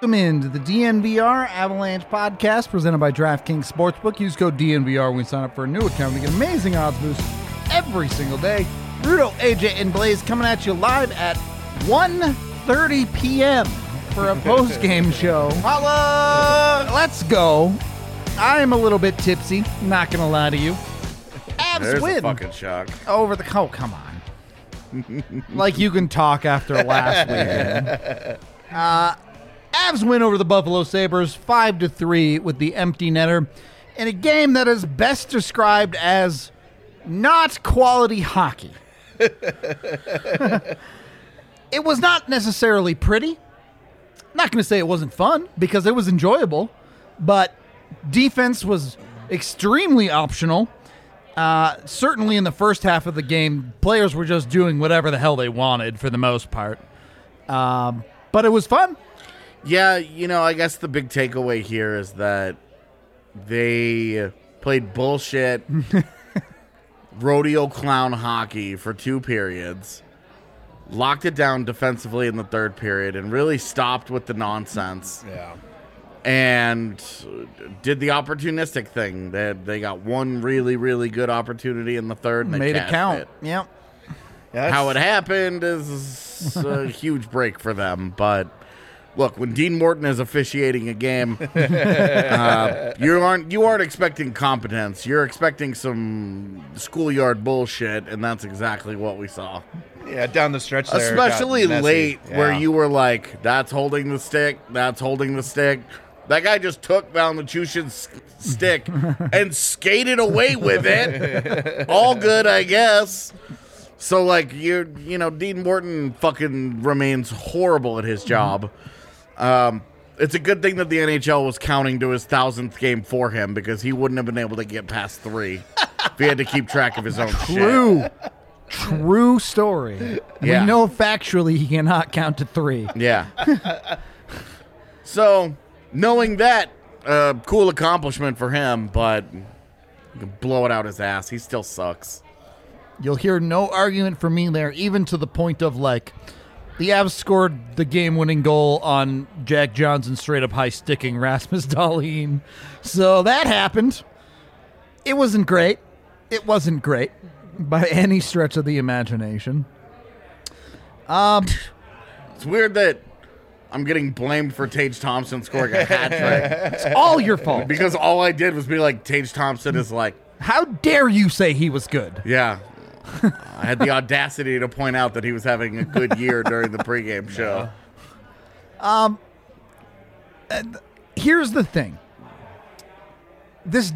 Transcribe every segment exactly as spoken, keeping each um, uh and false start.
Welcome into the D N V R Avalanche podcast presented by DraftKings Sportsbook. Use code D N V R when you sign up for a new account to get amazing odds boosts every single day. Rudo, A J, and Blaze coming at you live at one thirty p.m. for a post-game show. Holla! Let's go. I am a little bit tipsy, not going to lie to you. Avs There's win. a fucking shock. Over the... Oh, come on. Like you can talk after last weekend. Uh, Avs win over the Buffalo Sabres five to three with the empty netter in a game that is best described as not quality hockey. It was not necessarily pretty. Not going to say it wasn't fun because it was enjoyable, but defense was extremely optional. Uh, certainly in the first half of the game, players were just doing whatever the hell they wanted for the most part. Um, but it was fun. Yeah, you know, I guess the big takeaway here is that they played bullshit rodeo clown hockey for two periods, locked it down defensively in the third period, and really stopped with the nonsense. Yeah. And did the opportunistic thing. They, they got one really, really good opportunity in the third, and they Made it cashed count. it. Yep. Yeah, How it happened is a huge break for them. But look, when Dean Morton is officiating a game, uh, you aren't you aren't expecting competence. You're expecting some schoolyard bullshit, and that's exactly what we saw. Yeah, down the stretch there. it got Especially messy. late, Yeah. where you were like, "That's holding the stick. That's holding the stick." That guy just took Valnichushin's stick and skated away with it. All good, I guess. So, like, you you know, Dean Morton fucking remains horrible at his job. Um, it's a good thing that the N H L was counting to his thousandth game for him because he wouldn't have been able to get past three if he had to keep track of his own shit. True. True story. Yeah. We know factually he cannot count to three. Yeah. So, knowing that, uh, cool accomplishment for him, but blow it out his ass. He still sucks. You'll hear no argument from me there, even to the point of, like, the Avs scored the game-winning goal on Jack Johnson straight-up high-sticking Rasmus Dahlin. So that happened. It wasn't great. It wasn't great by any stretch of the imagination. Um, It's weird that I'm getting blamed for Tage Thompson scoring a hat trick It's all your fault. because all I did was be like, Tage Thompson is like, How dare you say he was good? yeah. I had the audacity to point out that he was having a good year during the pregame show. Here's the thing. This,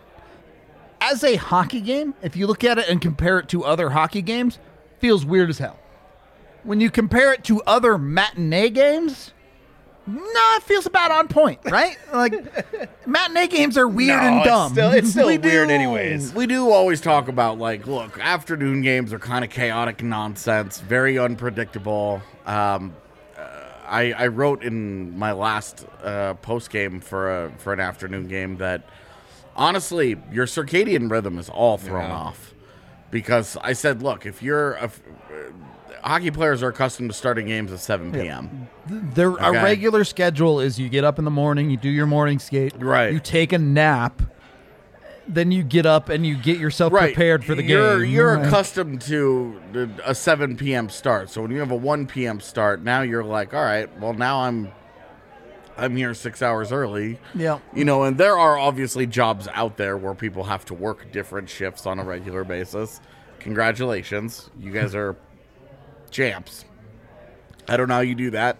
as a hockey game, if you look at it and compare it to other hockey games, feels weird as hell. When you compare it to other matinee games, no, it feels about on point, right? Like, matinee games are weird No, and it's dumb. still- it's still We weird do- anyways. We do always talk about, like, look, afternoon games are kind of chaotic nonsense, very unpredictable. Um, uh, I, I wrote in my last uh, post game for a for an afternoon game that honestly, your circadian rhythm is all thrown Yeah. off because I said, look, if you're a, hockey players are accustomed to starting games at seven p.m. Their a Okay. regular schedule is you get up in the morning, you do your morning skate, Right. you take a nap, then you get up and you get yourself Right. prepared for the you're, game. You're Right. accustomed to the- a seven p.m. start. So when you have a one p.m. start, now you're like, all right, well, now I'm I'm here six hours early. Yeah. You know, and there are obviously jobs out there where people have to work different shifts on a regular basis. Congratulations. You guys are champs. I don't know how you do that.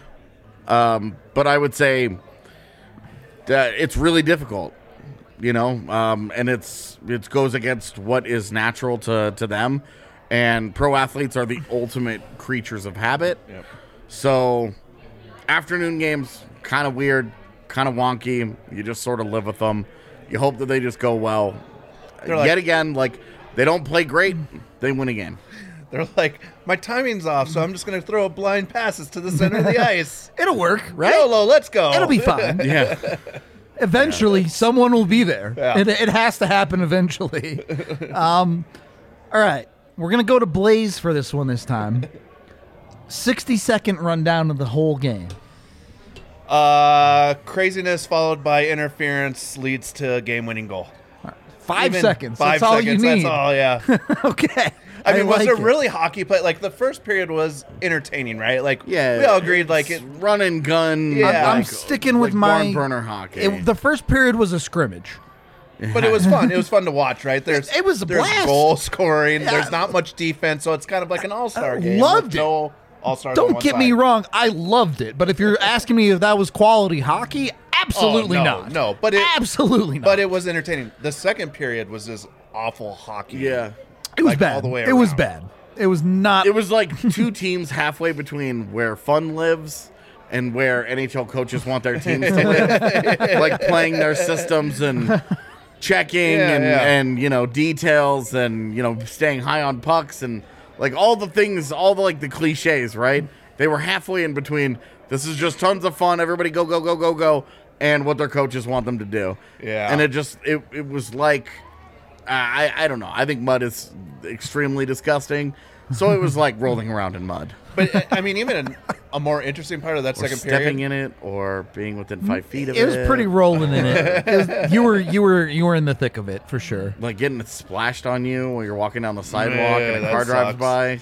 Um, but I would say that it's really difficult, you know, um, and it's it goes against what is natural to, to them. And pro athletes are the ultimate creatures of habit. Yep. So afternoon games, kind of weird, kind of wonky. You just sort of live with them. You hope that they just go well. They're like- Yet again, like, they don't play great, they win a game. They're like, my timing's off, so I'm just going to throw a blind passes to the center of the ice. It'll work, right? YOLO, let's go. It'll be fine. Yeah. Eventually, someone will be there. Yeah. It, it has to happen eventually. um, all right. We're going to go to Blaze for this one this time. sixty-second rundown of the whole game. Uh, craziness followed by interference leads to a game-winning goal. Five Even seconds. Five that's all seconds. you need. That's all. Yeah. Okay. I mean, was like it it. really hockey play? Like the first period was entertaining, right? Like Yeah, we all agreed. Like it. run and gun. Yeah. I'm like- sticking with like my barn burner hockey. It, the first period was a scrimmage. But it was fun. It was fun to watch, right? There's It was a there's blast. goal scoring. Yeah. There's not much defense, so it's kind of like an all-star I game. loved with it. No all-stars. Don't get me wrong, I loved it. But if you're asking me if that was quality hockey, absolutely Oh, no, not. no, but it- absolutely not. But it was entertaining. The second period was just awful hockey. yeah. it was like, bad. all the way it was around. bad. It was not. It was like two teams halfway between where fun lives and where N H L coaches want their teams to live. Like playing their systems and checking Yeah, and, yeah. and, you know, details and, you know, staying high on pucks and like all the things, all the like the cliches, right? They were halfway in between. This is just tons of fun. Everybody go, go, go, go, go. And what their coaches want them to do. Yeah. And it just, it, it was like, I, I don't know. I think mud is extremely disgusting. So it was like rolling around in mud. But uh, I mean, even a, a more interesting part of that Or second stepping period. in it or being within five feet of it. it was pretty rolling in it. It was- you were you were you were in the thick of it for sure. Like getting it splashed on you while you're walking down the sidewalk Yeah, and a that car drives sucks. by.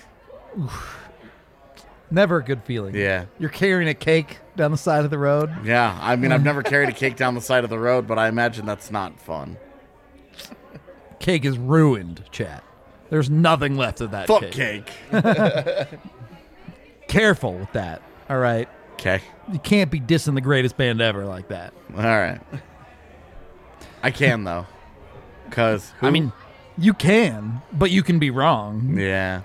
Never a good feeling. Yeah. You're carrying a cake down the side of the road. Yeah. I mean, I've never carried a cake down the side of the road, but I imagine that's not fun. Cake is ruined, chat. There's nothing left of that Fuck cake. cake. Careful with that. All right. Okay. You can't be dissing the greatest band ever like that. All right. I can, though. Because, I mean, you can, but you can be wrong. yeah.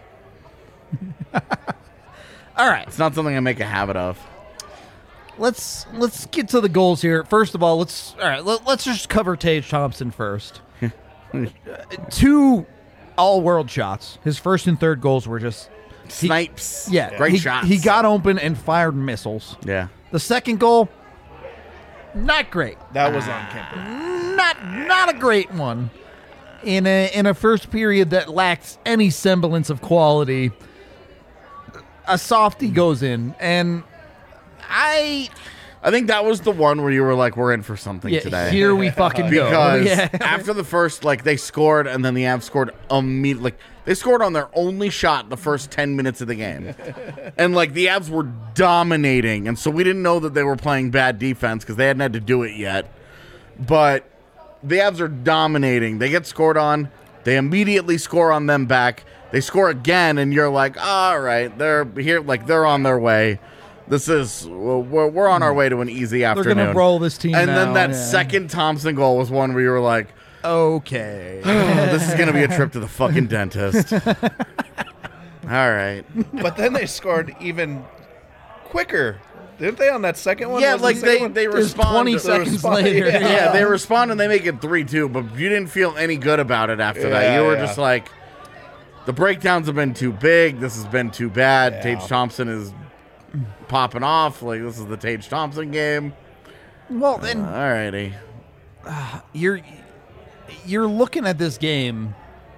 All right. It's not something I make a habit of. Let's let's get to the goals here. First of all, let's all right. Let, let's just cover Tage Thompson first. Uh, two all-world shots. His first and third goals were just Snipes. yeah. Great he, shots. He got open and fired missiles. Yeah. The second goal, not great. That was on Kemper. Not not a great one. In a in a first period that lacks any semblance of quality, a softie goes in, and I I think that was the one where you were like, we're in for something yeah, today. here we fucking go. Because Yeah. after the first, like, they scored, and then the Avs scored immediately. Like, they scored on their only shot the first ten minutes of the game. And, like, the Avs were dominating. And so we didn't know that they were playing bad defense because they hadn't had to do it yet. But the Avs are dominating. They get scored on. They immediately score on them back. They score again, and you're like, all right, they're here. Like, they're on their way. This is, we're, we're on our way to an easy They're afternoon. gonna roll this team. And now, then that yeah. second Thompson goal was one where you were like, Okay. oh, this is going to be a trip to the fucking dentist. All right. But then they scored even quicker, didn't they? On that second one. Yeah, Was like the second they, one? they It was respond. twenty to- seconds respond- later. yeah. Yeah, they respond and they make it three two, but you didn't feel any good about it after that. Yeah, You were yeah. just like, the breakdowns have been too big. This has been too bad. Yeah. Tage Thompson is popping off. Like, this is the Tage Thompson game. Well, then All righty. you're you're looking at this game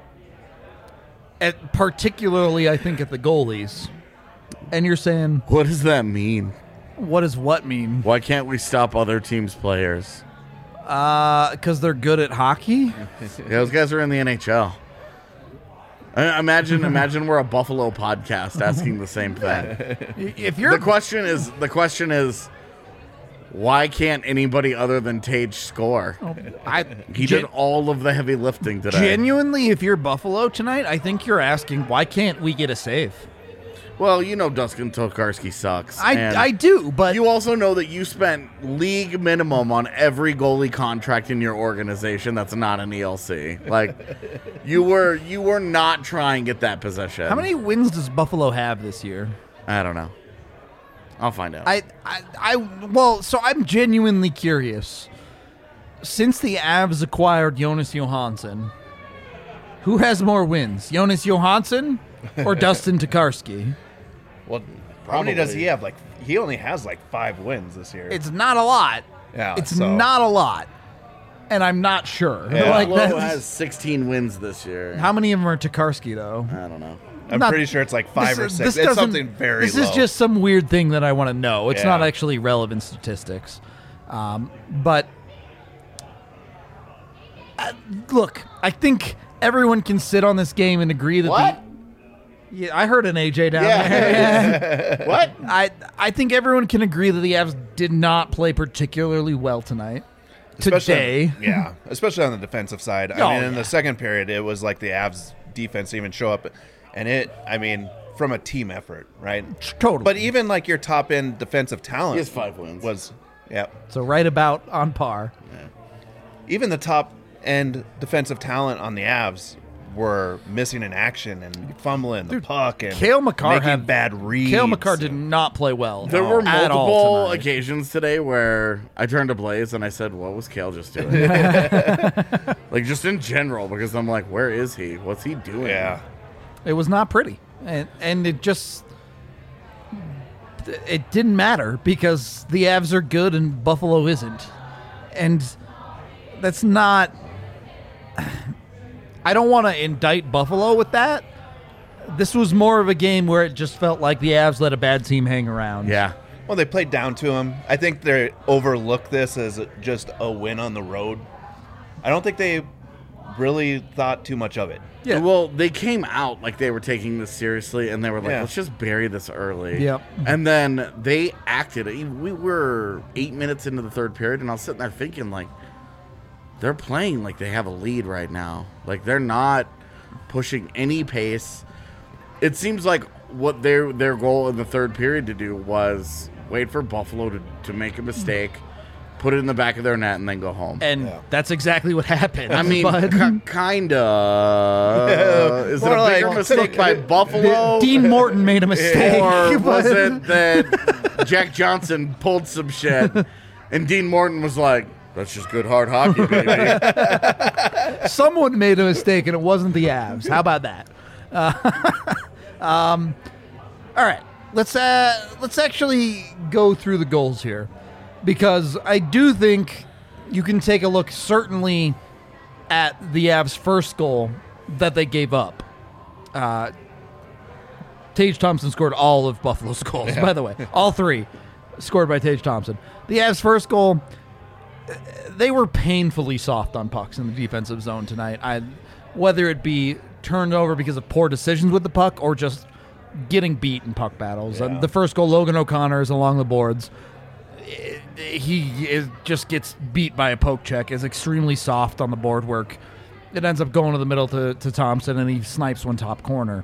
at particularly I think at the goalies, and you're saying, What does that mean? what does what mean? Why can't we stop other teams' players? Uh, because they're good at hockey. Yeah, those guys are in the N H L. I- Imagine, imagine we're a Buffalo podcast asking the same thing. If you're The question is, the question is, why can't anybody other than Tage score? I He gen- did all of the heavy lifting today. genuinely, if you're Buffalo tonight, I think you're asking why can't we get a save? Well, you know Dustin Tokarski sucks. I and I do, but you also know that you spent league minimum on every goalie contract in your organization that's not an E L C. Like, you were you were not trying at that position. how many wins does Buffalo have this year? I don't know. I'll find out. I, I, I, well, so I'm genuinely curious. Since the Avs acquired Jonas Johansson, who has more wins, Jonas Johansson or Dustin Tokarski? Well, how many does Probably. he have? Like, he only has like five wins this year. It's not a lot. Yeah, it's so- not a lot, and I'm not sure. Yeah. Like, Buffalo that's- has sixteen wins this year. how many of them are Tokarski though? I don't know. I'm Not- pretty sure it's like five this- or this six. It's doesn't- something very This low. is just some weird thing that I want to know. It's Yeah. not actually relevant statistics. Um, but uh, look, I think everyone can sit on this game and agree that What? the yeah, I heard an A J down Yeah. there. What? I I think everyone can agree that the Avs did not play particularly well tonight. Especially- Today, yeah, especially on the defensive side. I Oh, mean, in yeah. the second period, it was like the Avs defense didn't even show up, and it. I mean, from a team effort, right? totally. But even like your top end defensive talent He has five wins. was, yeah. so right about on par. Even the top end defensive talent on the Avs were missing in action and fumbling the puck and Cale Makar making had bad reads. Cale Makar did not play well. There were at all multiple tonight. occasions today where I turned to Blaze and I said, "What was Kale just doing?" Like just in general, because I'm like, "Where is he? What's he doing?" Yeah. It was not pretty, and and it just it didn't matter because the Avs are good and Buffalo isn't, and that's not. I don't want to indict Buffalo with that. This was more of a game where it just felt like the Avs let a bad team hang around. Yeah. Well, they played down to him. I think they overlooked this as just a win on the road. I don't think they really thought too much of it. Yeah. Well, they came out like they were taking this seriously, and they were like, Yeah. "Let's just bury this early." Yep. And then they acted. We were eight minutes into the third period, and I was sitting there thinking, like, they're playing like they have a lead right now. Like they're not pushing any pace. It seems like what their their goal in the third period to do was wait for Buffalo to, to make a mistake, put it in the back of their net, and then go home. And Yeah. that's exactly what happened. I mean, but k- kinda. Is it More a bigger like- mistake by Buffalo? Dean Morton made a mistake. Or was but- it that Jack Johnson pulled some shit and Dean Morton was like, "That's just good hard hockey, baby." Someone made a mistake, and it wasn't the Avs. How about that? Uh, um, all right, let's uh, let's actually go through the goals here, because I do think you can take a look certainly at the Avs' first goal that they gave up. Uh, Tage Thompson scored all of Buffalo's goals, by the way, all three scored by Tage Thompson. The Avs' first goal. They were painfully soft on pucks in the defensive zone tonight. I, whether it be turned over because of poor decisions with the puck or just getting beat in puck battles. Yeah. Um, the first goal, Logan O'Connor is along the boards. I- He is, just gets beat by a poke check. Is extremely soft on the board work. It ends up going to the middle to, to Thompson, and he snipes one top corner.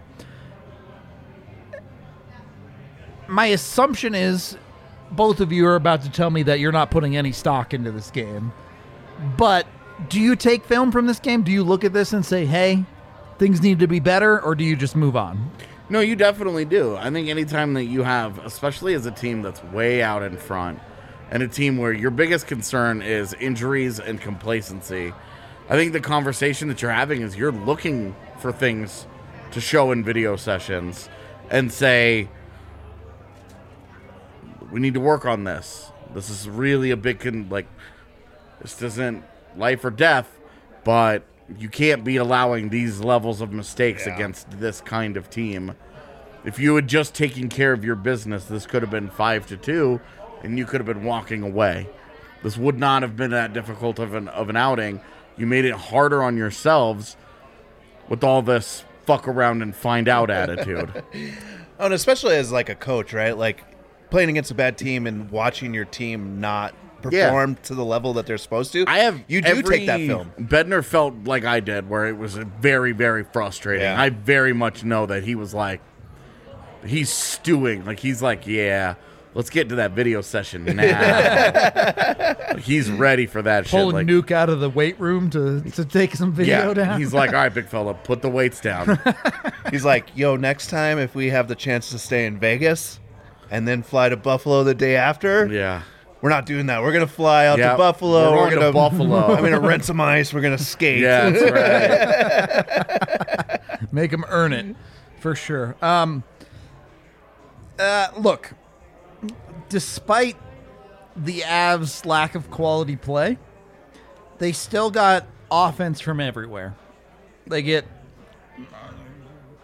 My assumption is both of you are about to tell me that you're not putting any stock into this game. But do you take film from this game? Do you look at this and say, hey, things need to be better, or do you just move on? No, you definitely do. I think anytime that you have, especially as a team that's way out in front, and a team where your biggest concern is injuries and complacency, I think the conversation that you're having is you're looking for things to show in video sessions and say, we need to work on this. This is really a big, con- like, this isn't life or death, but you can't be allowing these levels of mistakes Yeah. against this kind of team. If you had just taken care of your business, this could have been five to two, and you could have been walking away. This would not have been that difficult of an of an outing. You made it harder on yourselves with all this fuck around and find out attitude. Oh, and especially as like a coach, right? Like playing against a bad team and watching your team not perform to the level that they're supposed to. I have you do every, take that film. Bednar felt like I did, where it was very, very frustrating. Yeah. I very much know that he was like, he's stewing. Like he's like, yeah, let's get to that video session now. Like, he's ready for that Pull shit. a Like, nuke out of the weight room to, to take some video yeah, down? he's like, all right, big fella, put the weights down. He's like, yo, next time if we have the chance to stay in Vegas and then fly to Buffalo the day after, Yeah. we're not doing that. We're gonna fly out Yeah, to Buffalo. we're going to gonna Buffalo. I'm gonna rent some ice. We're gonna skate. Yeah, that's right. Make them earn it, for sure. Um, uh, look, despite the Avs' lack of quality play, they still got offense from everywhere. They get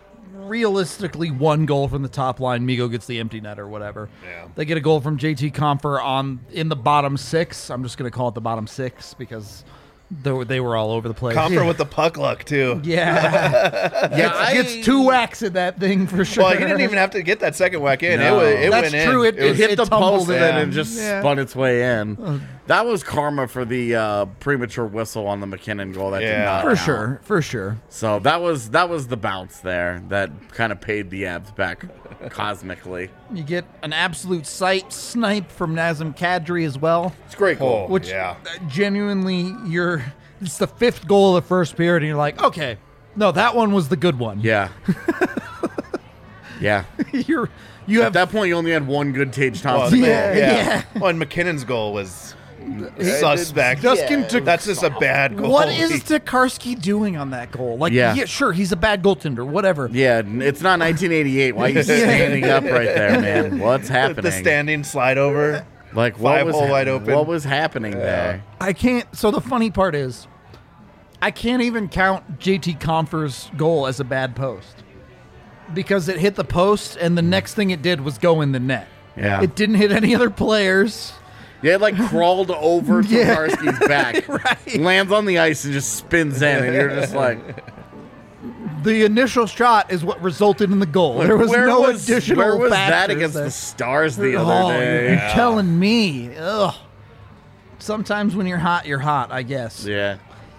realistically one goal from the top line. Migo gets the empty net or whatever. Yeah. They get a goal from J T Compher on in the bottom six. I'm just going to call it the bottom six because they were, they were all over the place. Comfort yeah. with the puck luck, too. Yeah. Yeah, I, Gets two whacks at that thing for sure. Well, he didn't even have to get that second whack in. No. It, was, it That's went true. in. It- It was- hit it the tumbled post and in. then it just Yeah. spun its way in. That was karma for the uh, premature whistle on the McKinnon goal. That did Yeah. not For count. sure. For sure. So that was that was the bounce there that kind of paid the Abs back cosmically. You get an absolute sight snipe from Nazem Kadri as well. It's a great goal. Oh, Which yeah. uh, genuinely, you're it's the fifth goal of the first period, and you're like, okay, no, that one was the good one. Yeah. yeah. you're you At have that point, you only had one good Tage Well, Thompson. Yeah, yeah. yeah. Well, and McKinnon's goal was suspect. Dustin Yeah. took. That's just a bad goal. What is Tokarski doing on that goal? Like, yeah. Yeah. sure, he's a bad goaltender, whatever. Yeah, it's not nineteen eighty-eight. Why are you standing up right there, man? What's happening? The standing slide over? like what five was hole hap- wide open. What was happening there? I can't. So the funny part is, I can't even count J T Compher's goal as a bad post because it hit the post, and the next thing it did was go in the net. Yeah. It didn't hit any other players. Yeah, it like crawled over Yeah. Tokarski's back, Right. lands on the ice, and just spins in, and you're just like, The initial shot is what resulted in the goal. There was where no was, additional Where was that factors against there. the Stars the Oh, other day? you're telling me. Ugh. Sometimes when you're hot, you're hot, I guess. Yeah.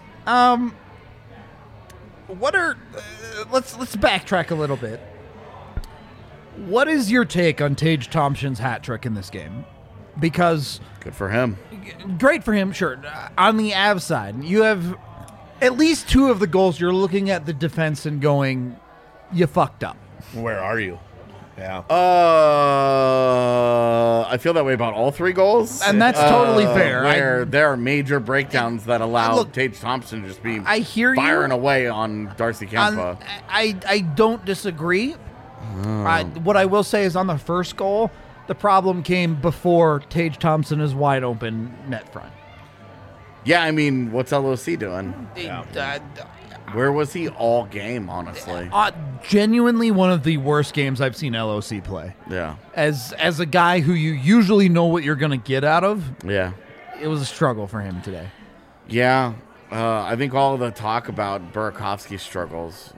What are uh, let's let's backtrack a little bit. What is your take on Tage Thompson's hat trick in this game? Because Good for him. great for him, sure. Uh, On the Avs side, you have at least two of the goals. You're looking at the defense and going, "You fucked up." Where are you? Yeah. Uh, I feel that way about all three goals. And that's totally fair. I- Where there are major breakdowns that allow Look, Tage Thompson to just be I hear you. firing away on Darcy On- Kempa. I I don't disagree. I, what I will say is on the first goal, the problem came before Tage Thompson is wide open net front. Yeah, I mean, what's L O C doing? Yeah. Uh, Where was he all game, honestly? uh, genuinely one of the worst games I've seen L O C play. Yeah. As as a guy who you usually know what you're going to get out of, Yeah. it was a struggle for him today. Yeah. Uh, I think all of the talk about Burakovsky's struggles,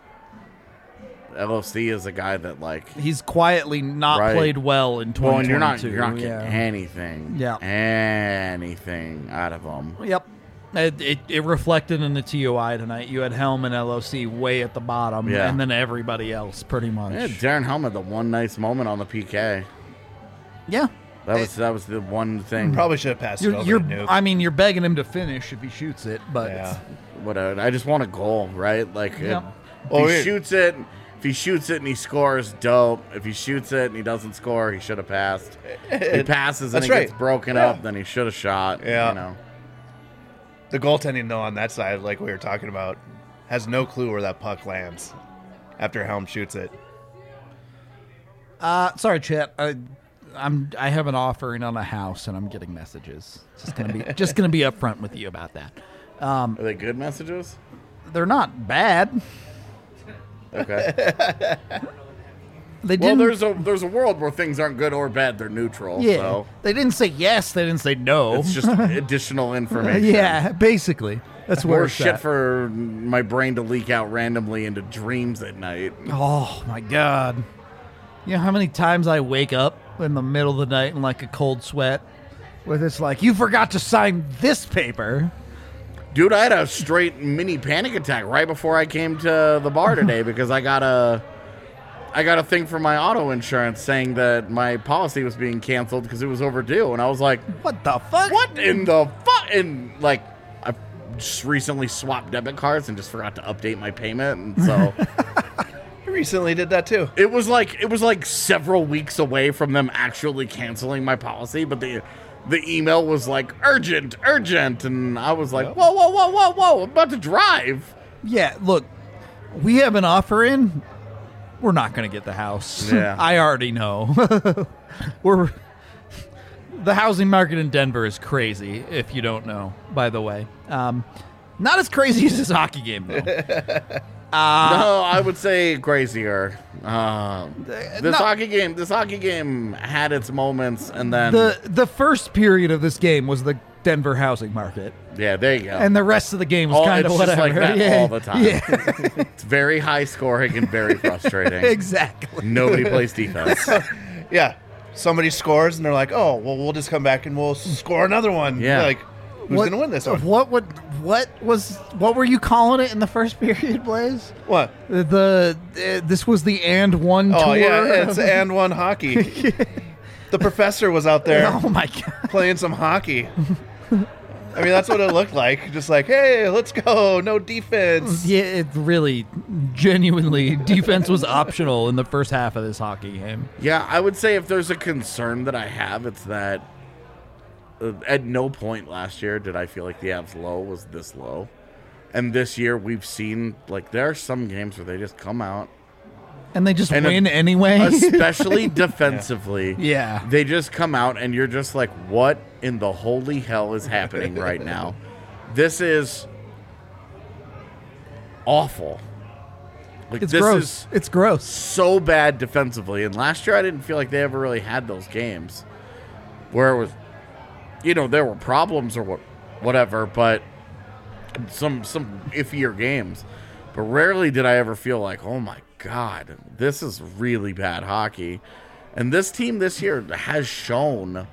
L O C is a guy that, like, He's quietly not Right. played well in twenty twenty-two. well, and you're not, you're not getting yeah. anything, Yeah. anything out of him. Yep. It, it, it reflected in the T O I tonight. You had Helm and L O C way at the bottom, Yeah. and then everybody else pretty much. Yeah, Darren Helm had the one nice moment on the P K. Yeah. That was that was the one thing. Probably should have passed it You're, over you're, to Nuke. I mean, you're begging him to finish if he shoots it, but yeah. Whatever. I just want a goal, right? Like, Yeah. if, if Oh, he yeah. shoots it, if he shoots it and he scores, dope. If he shoots it and he doesn't score, he should have passed. If he passes and That's he right. gets broken Yeah. up, then he should have shot. Yeah. You know. The goaltending, though, on that side, like we were talking about, has no clue where that puck lands after Helm shoots it. Uh, sorry, Chet. I, I'm I have an offering on a house, and I'm getting messages. Just gonna be just gonna be upfront with you about that. Are they good messages? They're not bad. Okay. They well, didn't. there's a there's a world where things aren't good or bad; they're neutral. yeah. So They didn't say yes. They didn't say no. it's just additional information. yeah, basically. That's where Or it's shit at. for my brain to leak out randomly into dreams at night. Oh my god. You know how many times I wake up in the middle of the night in like a cold sweat with it's like, you forgot to sign this paper. Dude, I had a straight mini panic attack right before I came to the bar today because I got a I got a thing from my auto insurance saying that my policy was being canceled because it was overdue, and I was like, What the fuck? "What in the fuck?" And like, I just recently swapped debit cards and just forgot to update my payment, and so I recently did that, too. it was like it was like several weeks away from them actually canceling my policy, but the the email was like urgent, urgent, and I was like, Yep. "Whoa, whoa, whoa, whoa, whoa! I'm about to drive." Yeah, look, we have an offer in. We're not going to get the house. Yeah. I already know. We're the housing market in Denver is crazy. If you don't know, by the way, um, not as crazy as this hockey game though. Uh, No, I would say crazier. Um, this no. hockey game, this hockey game had its moments, and then the the first period of this game was the Denver housing market, yeah, there you go. and the rest of the game was Oh, kind of it's whatever. just like that yeah. all the time. Yeah, It's very high scoring and very frustrating. exactly. Nobody plays defense. Yeah. Somebody scores, and they're like, oh, well, we'll just come back and we'll score another one. Yeah. You're like, who's What- going to win this one? What would what was what were you calling it in the first period, Blaze? What? The, the uh, this was the and one Oh, tour. yeah, it's and one hockey. The professor was out there Oh my god. playing some hockey. I mean, that's what it looked like. Just like, hey, let's go. No defense. Yeah, it really, genuinely, defense was optional in the first half of this hockey game. Yeah, I would say if there's a concern that I have, it's that uh, at no point last year did I feel like the Avs low was this low. And this year we've seen, like, there are some games where they just come out, And they just And a- win anyway. especially defensively. Yeah. They just come out and you're just like, what in the holy hell is happening right now? This is awful. Like, It's this gross. is It's gross. so bad defensively. And last year I didn't feel like they ever really had those games where it was, you know, there were problems or what, whatever, but some some iffier games. But rarely did I ever feel like, oh my God, this is really bad hockey. And this team this year has shown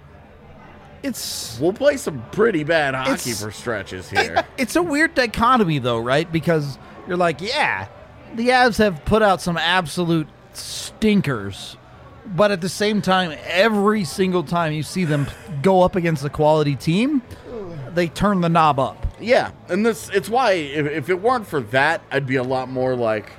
It's we'll play some pretty bad hockey It's- for stretches here. it's a weird dichotomy though, right? Because you're like, yeah, the Avs have put out some absolute stinkers, but at the same time, every single time you see them go up against a quality team, they turn the knob up. Yeah, and this it's why if, if it weren't for that, I'd be a lot more like,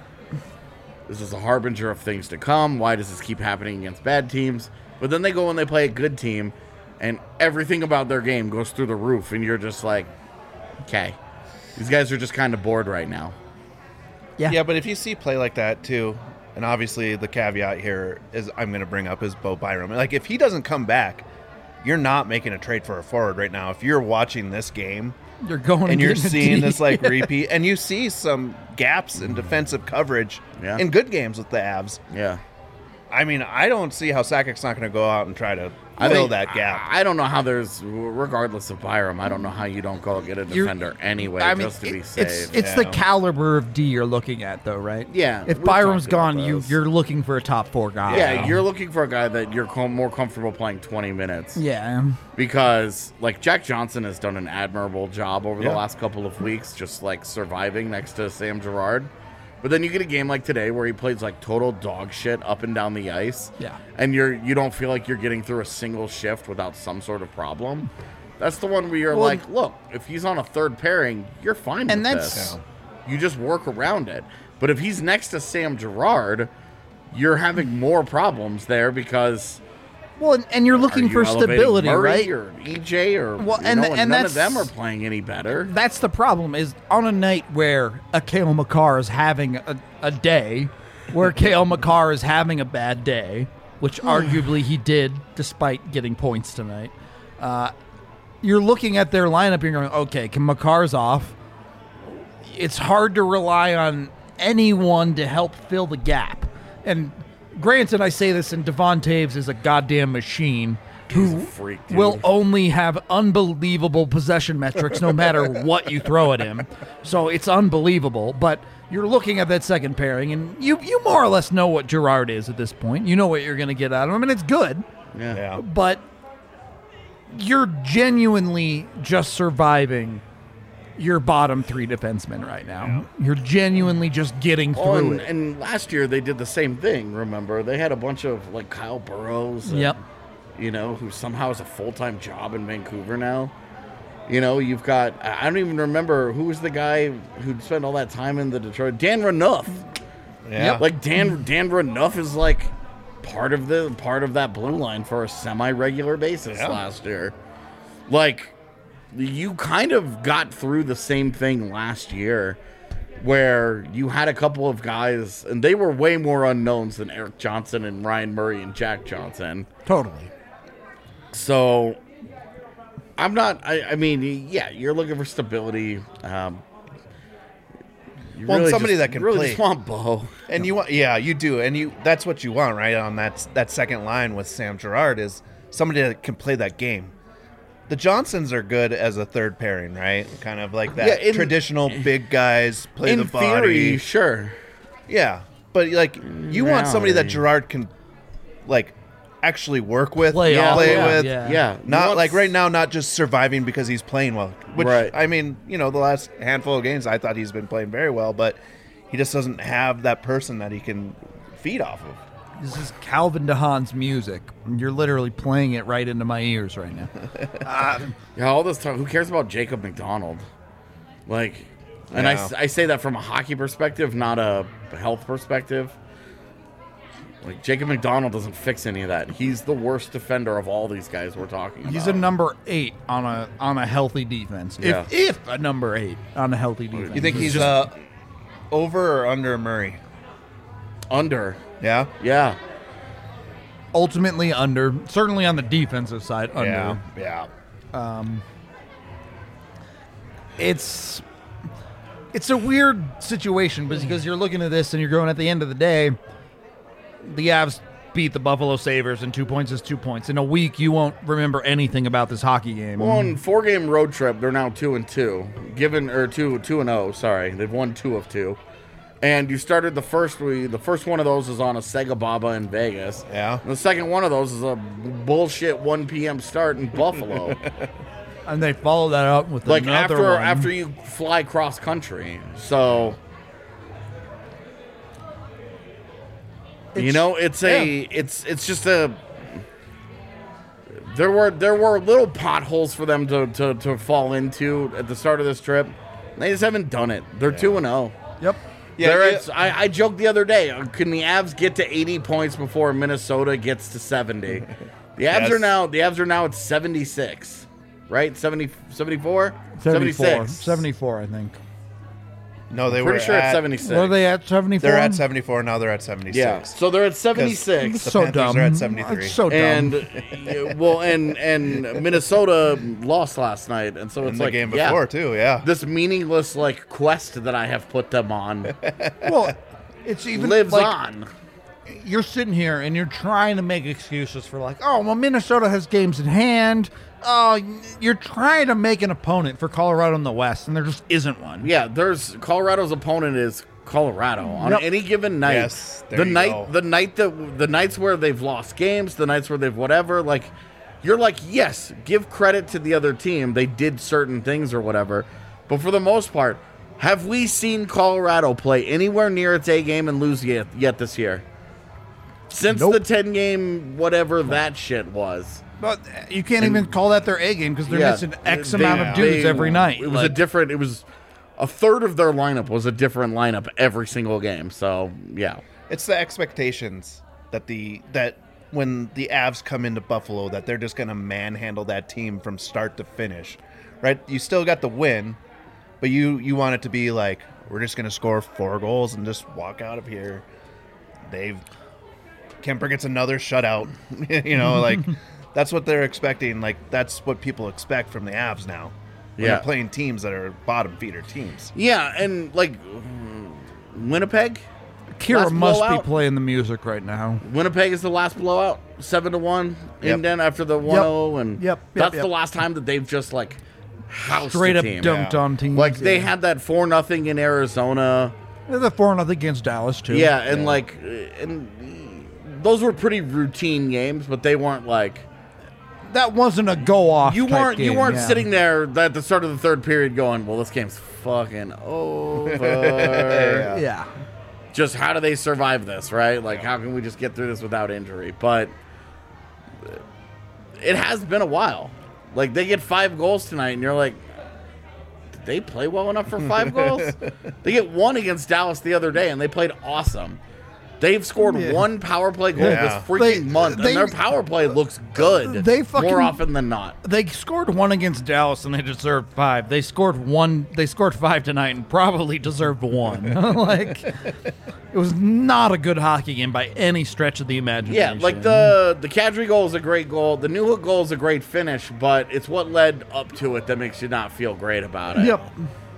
this is a harbinger of things to come. Why does this keep happening against bad teams? But then they go and they play a good team, and everything about their game goes through the roof, and you're just like, okay, these guys are just kind of bored right now. Yeah. Yeah, but if you see play like that too, and obviously the caveat here is I'm going to bring up is Bo Byram. Like if he doesn't come back, you're not making a trade for a forward right now. If you're watching this game You're going and you're getting a seeing D. this like repeat, and you see some gaps in defensive coverage Yeah. in good games with the Avs. Yeah. I mean, I don't see how Sakic's not going to go out and try to I fill think- that gap. I, I don't know how there's, regardless of Byram, I don't know how you don't go get a You're- defender anyway I mean, just to it- be it's safe. it's the Yeah. caliber of D you're looking at, though, right? Yeah, If we've Byram's talked about gone, you those. you're looking for a top four guy. yeah, you're looking for a guy that you're com- more comfortable playing twenty minutes. Yeah. Because, like, Jack Johnson has done an admirable job over Yeah. the last couple of weeks, just, like, surviving next to Sam Girard. But then you get a game like today where he plays, like, total dog shit up and down the ice. Yeah. And you're, you don't feel like you're getting through a single shift without some sort of problem. That's the one where you're Well, like, look, if he's on a third pairing, you're fine And with that's- this. You just work around it. But if he's next to Sam Girard, you're having more problems there because... Well, and, and you're looking Are you for elevating stability, Murray right? or E J or Well, you and- know, and none of that's- them are playing any better. That's the problem. Is on a night where a Kale McCarr is having a, a day, where Kale McCarr is having a bad day, which arguably he did, despite getting points tonight. Uh, you're looking at their lineup and you're going, okay, can McCarr's off? It's hard to rely on anyone to help fill the gap. And granted, I say this, and Devon Taves is a goddamn machine He's a who freak, dude. will only have unbelievable possession metrics no matter what you throw at him. So it's unbelievable. But you're looking at that second pairing, and you, you more or less know what Girard is at this point. You know what you're going to get out of him, and it's good. Yeah. Yeah. But you're genuinely just surviving your bottom three defensemen right now. You're genuinely just getting through Oh, and, it. and last year they did the same thing, remember? They had a bunch of, like, Kyle Burrows. and, Yep. You know, who somehow has a full-time job in Vancouver now. You know, you've got, I don't even remember, who was the guy who spent all that time in the Detroit? Dan Renouf. Yeah. Like, Dan Dan Renouf is, like, part of the part of that blue line for a semi-regular basis Yeah. last year. Like, you kind of got through the same thing last year where you had a couple of guys, and they were way more unknowns than Eric Johnson and Ryan Murray and Jack Johnson. Totally. So, I'm not, I, I mean, yeah, you're looking for stability. Um, You Well, really somebody just, that can you really play. just want Bo. And you want, yeah, you do, and you that's what you want, right? On that that second line with Sam Girard is somebody that can play that game. The Johnsons are good as a third pairing, right? Kind of like that Yeah, in- traditional big guys play In the body. theory, sure. Yeah, but like you want somebody that Reality. Girard can like actually work with, Play off play of, with. yeah. Yeah. Not Once- like right now, not just surviving because he's playing well. Which Right. I mean, you know, the last handful of games I thought he's been playing very well, but he just doesn't have that person that he can feed off of. This is Calvin DeHaan's music. You're literally playing it right into my ears right now. Yeah, all this time, who cares about Jacob McDonald? Like, and I, Yeah. s- I say that from a hockey perspective, not a health perspective. Like, Jacob McDonald doesn't fix any of that. He's the worst defender of all these guys we're talking about. He's a number eight on a on a healthy defense. Yeah. If if a number eight on a healthy defense. You think he's uh, over or under Murray? under. Yeah, Yeah. ultimately under? Certainly on the defensive side, under. yeah, yeah. It's it's a weird situation because you're looking at this and you're going, at the end of the day, the Avs beat the Buffalo Sabres and two points is two points. In a week, you won't remember anything about this hockey game. Well, on four game road trip, they're now two and two. Given or two two and oh, sorry, they've won two of two. And you started the first we the first one of those is on a Sega Baba in Vegas. Yeah. And the second one of those is a bullshit one p.m. start in Buffalo. And they follow that up with like another after one. after you fly cross country. So you It's- know, it's a it's it's just a there were there were little potholes for them to, to, to fall into at the start of this trip. They just haven't done it. They're two and zero. Yep. Yeah, They're yeah. at- I, I joked the other day. uh, Can the Avs get to eighty points before Minnesota gets to seventy? The Avs Yes. are now the Avs are now at seventy-six, right? seventy, seventy-four? seventy-four. seventy-six. seventy-four, I think. No, they Pretty were sure at, it's seventy-six. Were they at seventy-four? They're at seventy-four now. They're at seventy-six. Yeah. So they're at seventy-six. The So Panthers dumb. are at seventy-three. It's so dumb. And uh, well, and and Minnesota lost last night, and so it's In the like game yeah, before too. Yeah. this meaningless like quest that I have put them on well, it's even lives like, on. You're sitting here and you're trying to make excuses for like, oh, well, Minnesota has games in hand. Oh, you're trying to make an opponent for Colorado in the West, and there just isn't one. Yeah, there's Colorado's opponent is Colorado on Yep. any given night. Yes, there the you night, go. the night that the nights where they've lost games, the nights where they've whatever. Like, you're like, yes, give credit to the other team. They did certain things or whatever, but for the most part, have we seen Colorado play anywhere near its A game and lose yet, yet this year? Since Nope. the ten game whatever that shit was. But you can't even call that their A game because they're Yeah, missing X they- amount of dudes they- every night. It was a Like, different. It was a third of their lineup was a different lineup every single game. So yeah, It's the expectations that the that when the Avs come into Buffalo that they're just going to manhandle that team from start to finish, right? You still got the win, but you you want it to be like we're just going to score four goals and just walk out of here. They've Kemper gets another shutout, you know, like that's what they're expecting. Like that's what people expect from the Avs now. When Yeah. they're playing teams that are bottom feeder teams. yeah, and like Winnipeg. Kira last must blowout. be playing the music right now. Winnipeg is the last blowout, seven to one. Yep. And then after the one zero, and Yep, yep, that's yep. the last time that they've just like housed Straight a up team. dumped Yeah. on teams. Like they yeah. had that four nothing in Arizona. They're the four nothing against Dallas too. Yeah, and like, and those were pretty routine games, but they weren't like. that wasn't a go off. You weren't you game, weren't yeah. sitting there at the start of the third period going, well, this game's fucking over. Yeah. Yeah. Just how do they survive this, right? Like, how can we just get through this without injury? But it has been a while. Like, they get five goals tonight, and you're like, did they play well enough for five goals? They get one against Dallas the other day, and they played awesome. They've scored Yeah. one power play goal Yeah. this freaking They- month, they- and their power play looks good They fucking- more often than not. They scored one against Dallas and they deserved five. They scored one. They scored five tonight and probably deserved one. Like, it was not a good hockey game by any stretch of the Yeah, imagination. like the the Kadri goal is a great goal. The Newhook goal is a great finish, but it's what led up to it that makes you not feel great about it. Yep.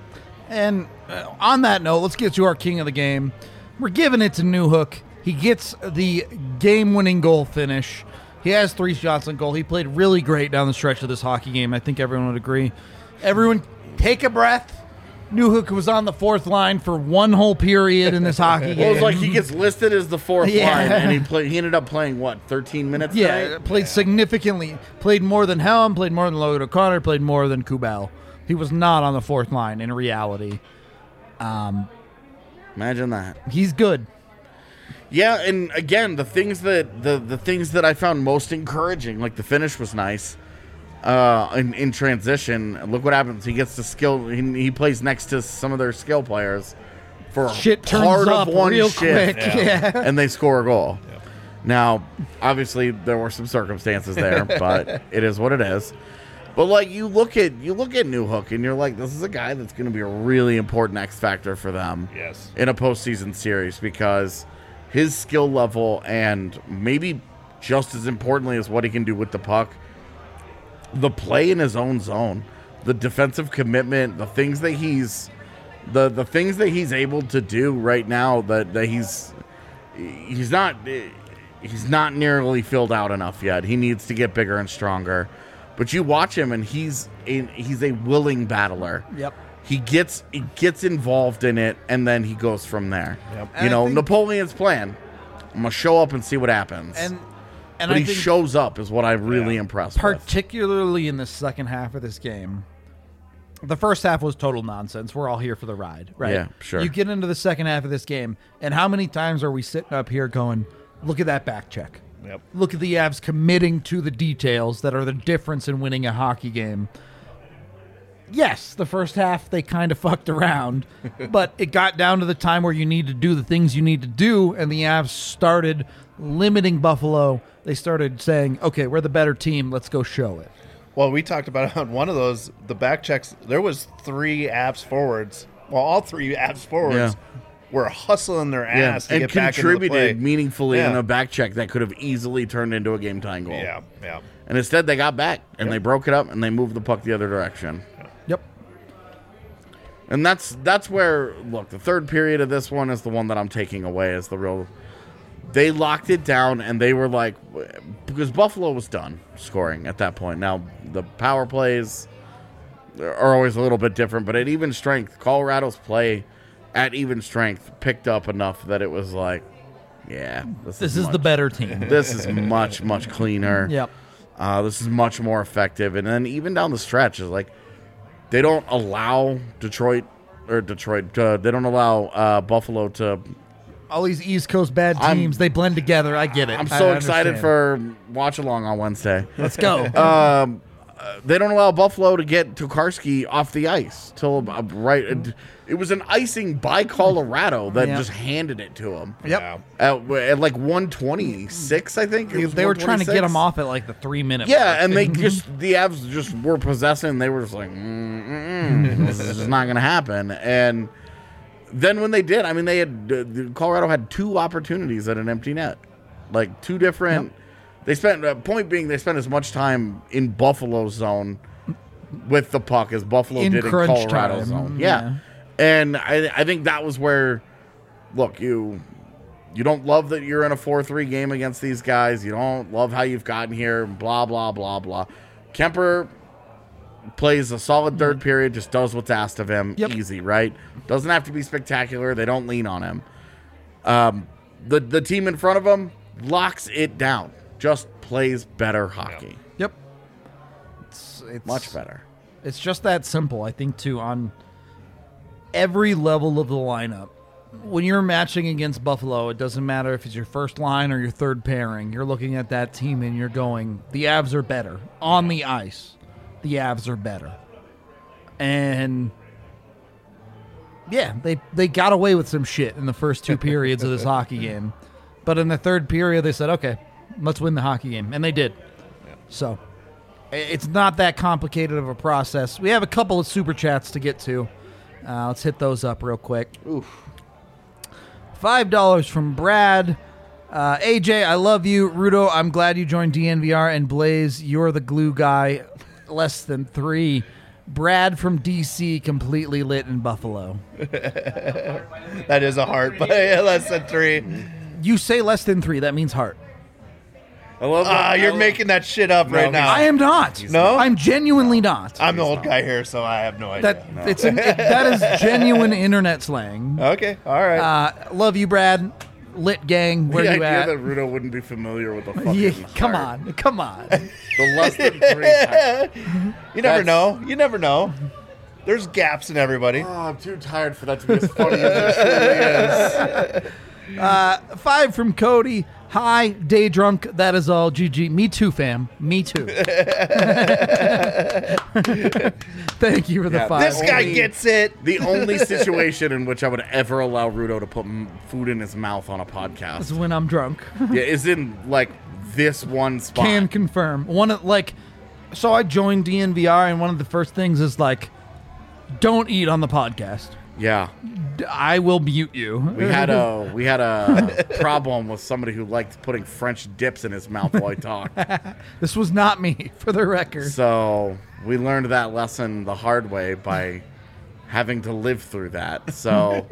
And uh, on that note, let's get to our king of the game. We're giving it to Newhook. He gets the game-winning goal finish. He has three shots on goal. He played really great down the stretch of this hockey game. I think everyone would agree. Everyone, take a breath. Newhook was on the fourth line for one whole period in this hockey game. Well, it was like he gets listed as the fourth Yeah. line, and he play, he ended up playing, what, thirteen minutes Yeah, tonight? played significantly. Played more than Helm, played more than Logan O'Connor, played more than Kubel. He was not on the fourth line in reality. Um, Imagine that. he's good. Yeah, and again, the things that the, the things that I found most encouraging, like the finish was nice. Uh, in, in transition, look what happens. He gets the skill. He, he plays next to some of their skill players for Shit turns part up of one real shift, quick. Yeah. and they score a goal. Now, obviously, there were some circumstances there, but it is what it is. But like you look at you look at Newhook, and you're like, this is a guy that's going to be a really important X factor for them. Yes. In a postseason series, because his skill level, and maybe just as importantly as what he can do with the puck, the play in his own zone, the defensive commitment, the things that he's the the things that he's able to do right now, that, that he's he's not he's not nearly filled out enough yet. He needs to get bigger and stronger. But you watch him, and he's a, he's a willing battler. Yep. He gets he gets involved in it, and then he goes from there. Yep. And You I know, think- Napoleon's plan. I'm gonna show up and see what happens. And and but I he think shows up is what I'm really Yeah. impressed with. particularly in the second half of this game. The first half was total nonsense. We're all here for the ride, right? Yeah, sure. You get into the second half of this game, and how many times are we sitting up here going, look at that back check. Yep. Look at the Avs committing to the details that are the difference in winning a hockey game. Yes, the first half they kind of fucked around, but it got down to the time where you need to do the things you need to do, and the Avs started limiting Buffalo. They started saying, okay, we're the better team. Let's go show it. Well, we talked about on one of those, the back checks, there was three Avs forwards. Well, all three Avs forwards Yeah. were hustling their Yeah, ass to and get back into the play. contributed meaningfully in Yeah. a back check that could have easily turned into a game tying goal. Yeah, yeah. And instead they got back and Yep. they broke it up and they moved the puck the other direction. Yep. And that's that's where, look, the third period of this one is the one that I'm taking away as the real. They locked it down, and they were like, because Buffalo was done scoring at that point. Now, the power plays are always a little bit different, but at even strength, Colorado's play at even strength picked up enough that it was like, yeah, this, This is, is much, the better team. This is much, much cleaner. Yep. Uh, this is much more effective. And then even down the stretch is like, they don't allow Detroit or Detroit. Uh, they don't allow uh, Buffalo to. All these East Coast bad I'm- teams, they blend together. I get it. I'm I so excited understand. for watch along on Wednesday. Let's go. um, uh, they don't allow Buffalo to get Tokarski off the ice till uh, right. It, it was an icing by Colorado that Yeah. just handed it to him. Yep. At, at like one twenty-six, I think. It They, was they were trying to get one twenty-six. him off at like the three minute Yeah, mark. and they just the Avs just were possessing. They were just like, mm, mm, mm, this is just not going to happen. And then when they did, I mean, they had uh, Colorado had two opportunities at an empty net, like two different. Yep. They spent uh, point being they spent as much time in Buffalo's zone with the puck as Buffalo In did in crunch Colorado's time, zone. Yeah, yeah. and I I think that was where, look, you. You don't love that you're in a four three game against these guys. You don't love how you've gotten here, blah, blah, blah, blah. Kemper plays a solid third period, just does what's asked of him. Yep. Easy, right? Doesn't have to be spectacular. They don't lean on him. Um, the, the team in front of him locks it down. Just plays better hockey. Yep. It's, it's Much better. It's just that simple, I think, too, on every level of the lineup. When you're matching against Buffalo, it doesn't matter if it's your first line or your third pairing. You're looking at that team and you're going, the Avs are better. On the ice, the Avs are better. And yeah, they, they got away with some shit in the first two periods of this hockey game. But in the third period, they said, okay, let's win the hockey game. And they did. So i- it's not that complicated of a process. We have a couple of super chats to get to. Uh, let's hit those up real quick. Oof. Five dollars from Brad. Uh, A J, I love you. Rudo, I'm glad you joined D N V R. And Blaze, you're the glue guy. Less than three. Brad from D C completely lit in Buffalo. That is a heart, but less than three. You say less than three, that means heart. I love that. Ah, I you're love- making that shit up No, right he's- now. I am not. No? I'm genuinely not. I'm the He's old not. guy here, so I have no idea. That it's an, it, that is genuine internet slang. Okay, all right. Uh, love you, Brad. Lit gang. Where the you idea at? that Rudo wouldn't be familiar with the fucking Yeah, come heart. on, come on. The less than three part. you never that's- know. You never know. There's gaps in everybody. Oh, I'm too tired for that to be as funny as it truly is. Five from Cody. Hi, day drunk. That is all. G G. Me too, fam. Me too. Thank you for the Yeah, five. This guy only- gets it. The only situation in which I would ever allow Rudo to put m- food in his mouth on a is podcast when I'm drunk. yeah, is in like this one spot. Can confirm. One of like, so I joined D N V R, and one of the first things is like, don't eat on the podcast. yeah, D- I will mute you. we had a we had a problem with somebody who liked putting French dips in his mouth while he talked. This was not me, for the record. So we learned that lesson the hard way by having to live through that. So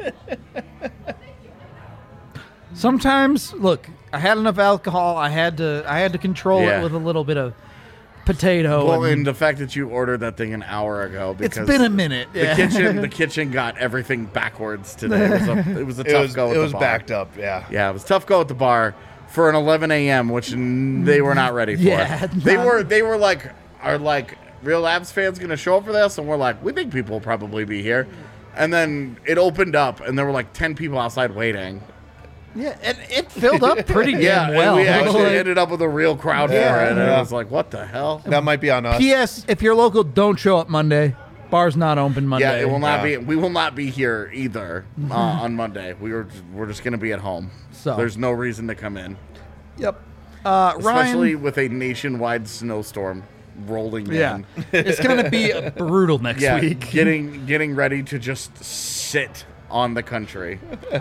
Sometimes, look, I had enough alcohol. I had to. I had to control Yeah. it with a little bit of potato. well, and and the fact that you ordered that thing an hour ago it's because been a minute. the Yeah. kitchen the kitchen got everything backwards today. It was a, it was a It tough was, go. At it the was bar. backed up, yeah. Yeah, it was a tough go at the bar for an eleven a.m., which n- they were not ready for. Yeah, they not- were. They were like, are like real Abs fans going to show up for this? And we're like, we think people will probably be here. And then it opened up, and there were like ten people outside waiting. Yeah, and it filled up pretty Yeah, damn well. and we actually Like, ended up with a real crowd for Yeah. it, and Yeah. it was like, what the hell? That might be on us. P S. If you're local, don't show up Monday. Bar's not open Monday. Yeah, it will not Yeah. be. We will not be here either uh, on Monday. We were we're just going to be at home. So. There's no reason to come in, Yep. Uh, especially Ryan. with a nationwide snowstorm rolling Yeah, in. it's gonna be brutal next Yeah, week. getting getting ready to just sit on the country.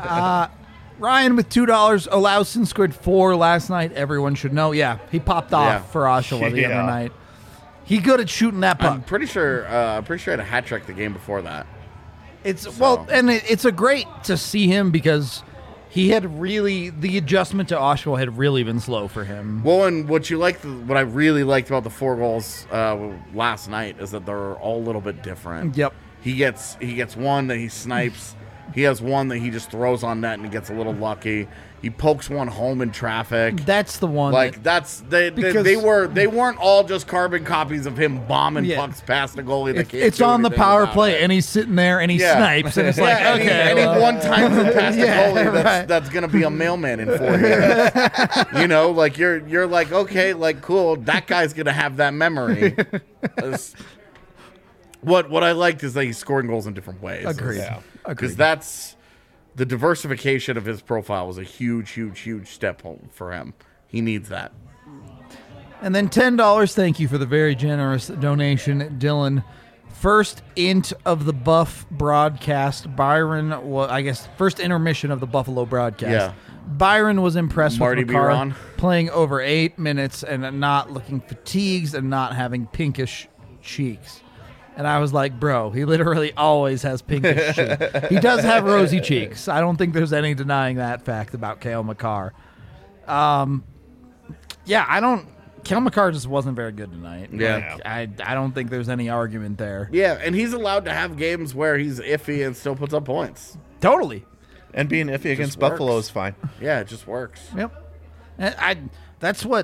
Ryan with two dollars. Olausen scored four last night. Everyone should know. Yeah, he popped off Yeah. for Oshawa the Yeah. other night. He good at shooting that puck. I'm pretty sure. Uh, I'm pretty sure I had a hat trick the game before that. It's well, and it, it's a great to see him because he had really the adjustment to Oshawa had really been slow for him. Well, and what you like, what I really liked about the four goals uh, last night is that they're all a little bit different. Yep. He gets he gets one that he snipes. He has one that he just throws on net and he gets a little lucky. He pokes one home in traffic. That's the one. Like that- that's they, they Because- they were they weren't all just carbon copies of him bombing Yeah. pucks past the goalie. That if can't it's do on the anything power about play, it. and he's sitting there and he Yeah. snipes, and it's like, Yeah, and okay, he, and he well, one times it past the Yeah, goalie. That's, right. that's gonna be a mailman in four years. You know, like you're you're like okay, like cool. That guy's gonna have that memory. That's- what what I liked is that he's scoring goals in different ways. agreed. Yeah. Because Agreed. that's the diversification of his profile was a huge, huge, huge step home for him. He needs that. And then ten dollars. Thank you for the very generous donation, Dylan. First int of the Buff broadcast. Byron, well, I guess first intermission of the Buffalo broadcast. Yeah. Byron was impressed Marty with B. Makar Ron. playing over eight minutes and not looking fatigued and not having pinkish cheeks. And I was like, bro, he literally always has pinkish cheeks. He does have rosy cheeks. I don't think there's any denying that fact about Cale Makar. Um, yeah, I don't. Cale Makar just wasn't very good tonight. Yeah. Like, I I don't think there's any argument there. Yeah, and he's allowed to have games where he's iffy and still puts up points. Totally. And being iffy against works. Buffalo is fine. Yeah, it just works. Yep. And I that's what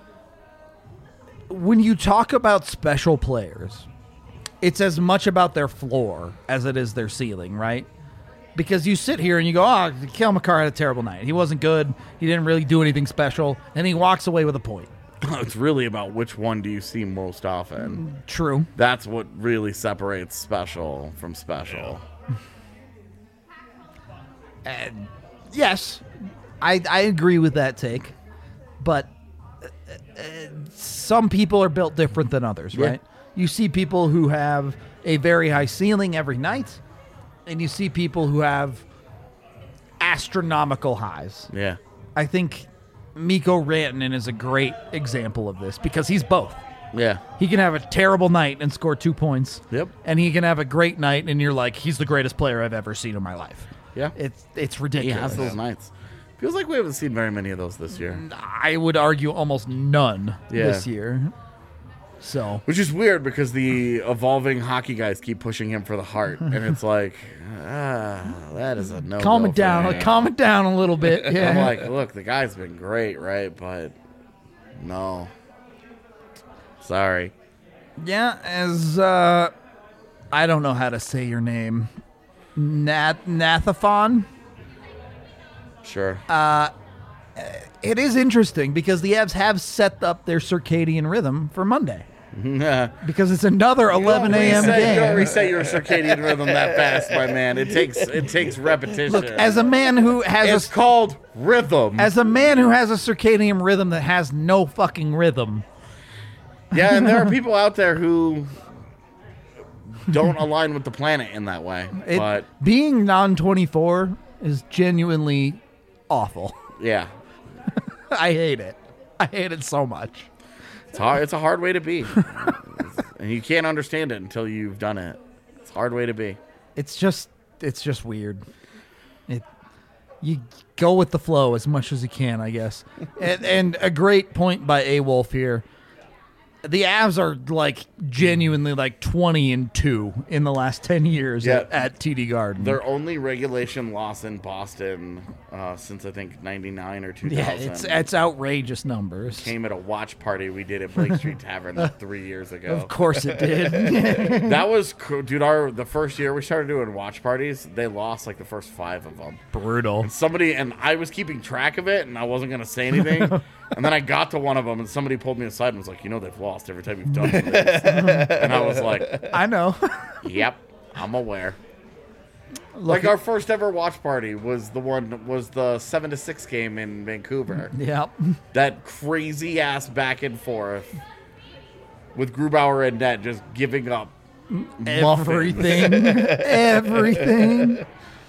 when you talk about special players, it's as much about their floor as it is their ceiling, right? Because you sit here and you go, oh, Cale Makar had a terrible night. He wasn't good. He didn't really do anything special. And he walks away with a point. It's really about which one do you see most often. True. That's what really separates special from special. And yes, I, I agree with that take. But uh, uh, some people are built different than others, Yeah. right? You see people who have a very high ceiling every night, and you see people who have astronomical highs. Yeah. I think Mikko Rantanen is a great example of this because he's both. Yeah. He can have a terrible night and score two points. Yep. And he can have a great night, and you're like, he's the greatest player I've ever seen in my life. Yeah. It's it's He ridiculous. has those nights. Feels like we haven't seen very many of those this year. I would argue almost none Yeah. this year. So Which is weird because the evolving hockey guys keep pushing him for the heart. And it's like, ah, that is a no. calm it down. Calm it down a little bit. Yeah. I'm like, look, the guy's been great, right? But no. Sorry. Yeah, as uh I don't know how to say your name. Nath Nathaphon? Sure. It is interesting because the Avs have set up their circadian rhythm for Monday. Because it's another eleven a.m. Reset- You don't game. reset your circadian rhythm that fast, my man. It takes it takes repetition. Look, as a man who has it's a called rhythm. as a man who has a circadian rhythm that has no fucking rhythm. Yeah, and there are people out there who don't align with the planet in that way. It, but being non twenty-four is genuinely awful. yeah, I hate it. I hate it so much. it's hard. It's a hard way to be, and you can't understand it until you've done it. It's a hard way to be. It's just it's just weird. It you go with the flow as much as you can, I guess. and and a great point by A Wolf here. The Avs are like genuinely like twenty and two in the last ten years Yeah. at, at T D Garden. Their only regulation loss in Boston uh, since I think ninety-nine or two thousand. yeah, it's it's outrageous numbers. Came at a watch party we did at Blake Street Tavern like three years ago. Of course it did. That was cool. Dude, our the first year we started doing watch parties, they lost like the first five of them. Brutal. Somebody, and I was keeping track of it, and I wasn't going to say anything. And then I got to one of them, and somebody pulled me aside and was like, you know, they've lost every time you've done this. And I was like, I know. yep, I'm aware. Like our first ever watch party was the one was the seven to six game in Vancouver. Yep. That crazy ass back and forth with Grubauer and net just giving up muffins. Everything. Everything.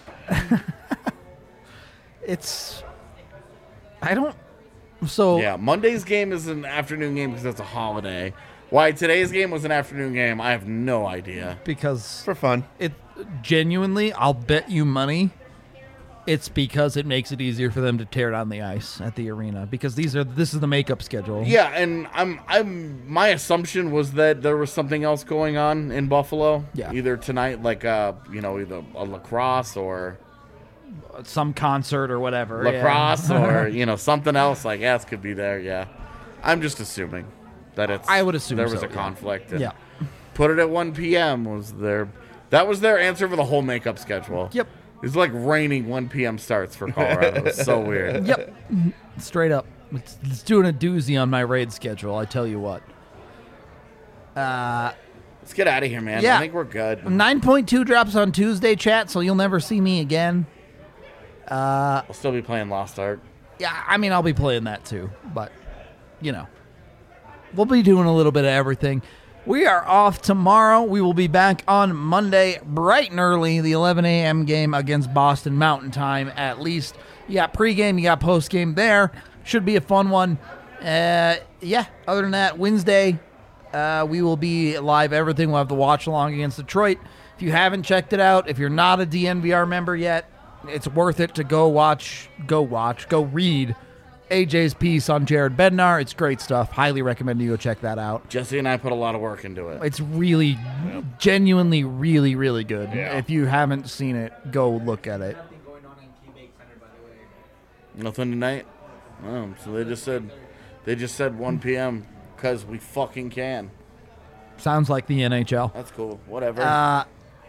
It's I don't so Yeah, Monday's game is an afternoon game because it's a holiday. Why today's game was an afternoon game, I have no idea. because For fun. it genuinely, I'll bet you money it's because it makes it easier for them to tear down the ice at the arena because these are this is the makeup schedule. Yeah, and I'm I'm my assumption was that there was something else going on in Buffalo. Yeah. Either tonight, like uh, you know, either a lacrosse or Some concert or whatever. yeah. lacrosse or you know something else. Like yes, could be there. Yeah, I'm just assuming that it's. I would assume there was so, a yeah. conflict. and Yeah. Put it at one p.m. was their. That was their answer for the whole makeup schedule. Yep. It's like raining one p.m. starts for Colorado. It's so weird. Yep. Straight up. It's, it's doing a doozy on my raid schedule, I tell you what. Uh Let's get out of here, man. Yeah. I think we're good. nine point two drops on Tuesday, chat, so you'll never see me again. I'll still be playing Lost Ark. Yeah, I mean, I'll be playing that too, but, you know, we'll be doing a little bit of everything. We are off tomorrow. We will be back on Monday, bright and early, the eleven a.m. game against Boston Mountain Time, at least. You got pregame, you got postgame there. Should be a fun one. Uh, yeah, other than that, Wednesday, uh, we will be live everything. We'll have the watch along against Detroit. If you haven't checked it out, if you're not a D N V R member yet, it's worth it to go watch, go watch, go read A J's piece on Jared Bednar. It's great stuff. Highly recommend you go check that out. Jesse and I put a lot of work into it. It's really, genuinely, really, really good. Yeah. If you haven't seen it, go look at it. Nothing going on in Teammate Center, by the way. Nothing tonight? Oh, so they just said they just said one p.m. because we fucking can. Sounds like the N H L. That's cool. Whatever. Uh,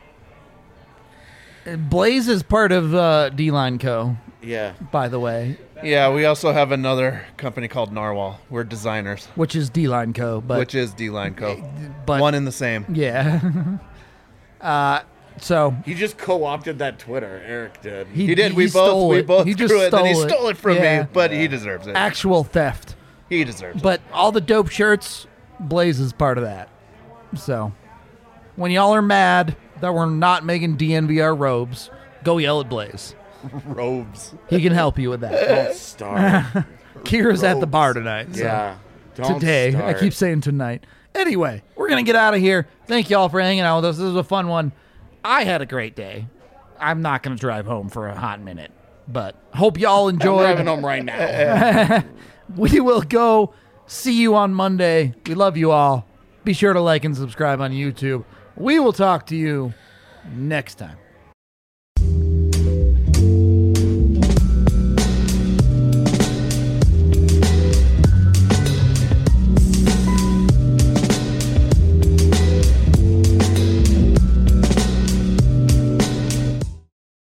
Blaze is part of uh, D-Line Co., yeah. by the way, Yeah, we also have another company called Narwhal. We're designers, which is D-Line Co., but which is D-Line Co. but One and the same. yeah. uh, so He just co-opted that Twitter. Eric did. he, He did. he we both stole we it. both he screw just it. Then he stole stole it from Yeah. me, but he deserves it. Actual theft. He deserves it. But all the dope shirts, Blaze is part of that. So when y'all are mad that we're not making D N V R robes, go yell at Blaze. Robes. He can help you with that. Don't start. Kira's at the bar tonight. So yeah. Don't today. start. I keep saying tonight. Anyway, we're going to get out of here. Thank you all for hanging out with us. This was a fun one. I had a great day. I'm not going to drive home for a hot minute, but hope y'all I'm enjoyed. driving home right now. We will go see you on Monday. We love you all. Be sure to like and subscribe on YouTube. We will talk to you next time.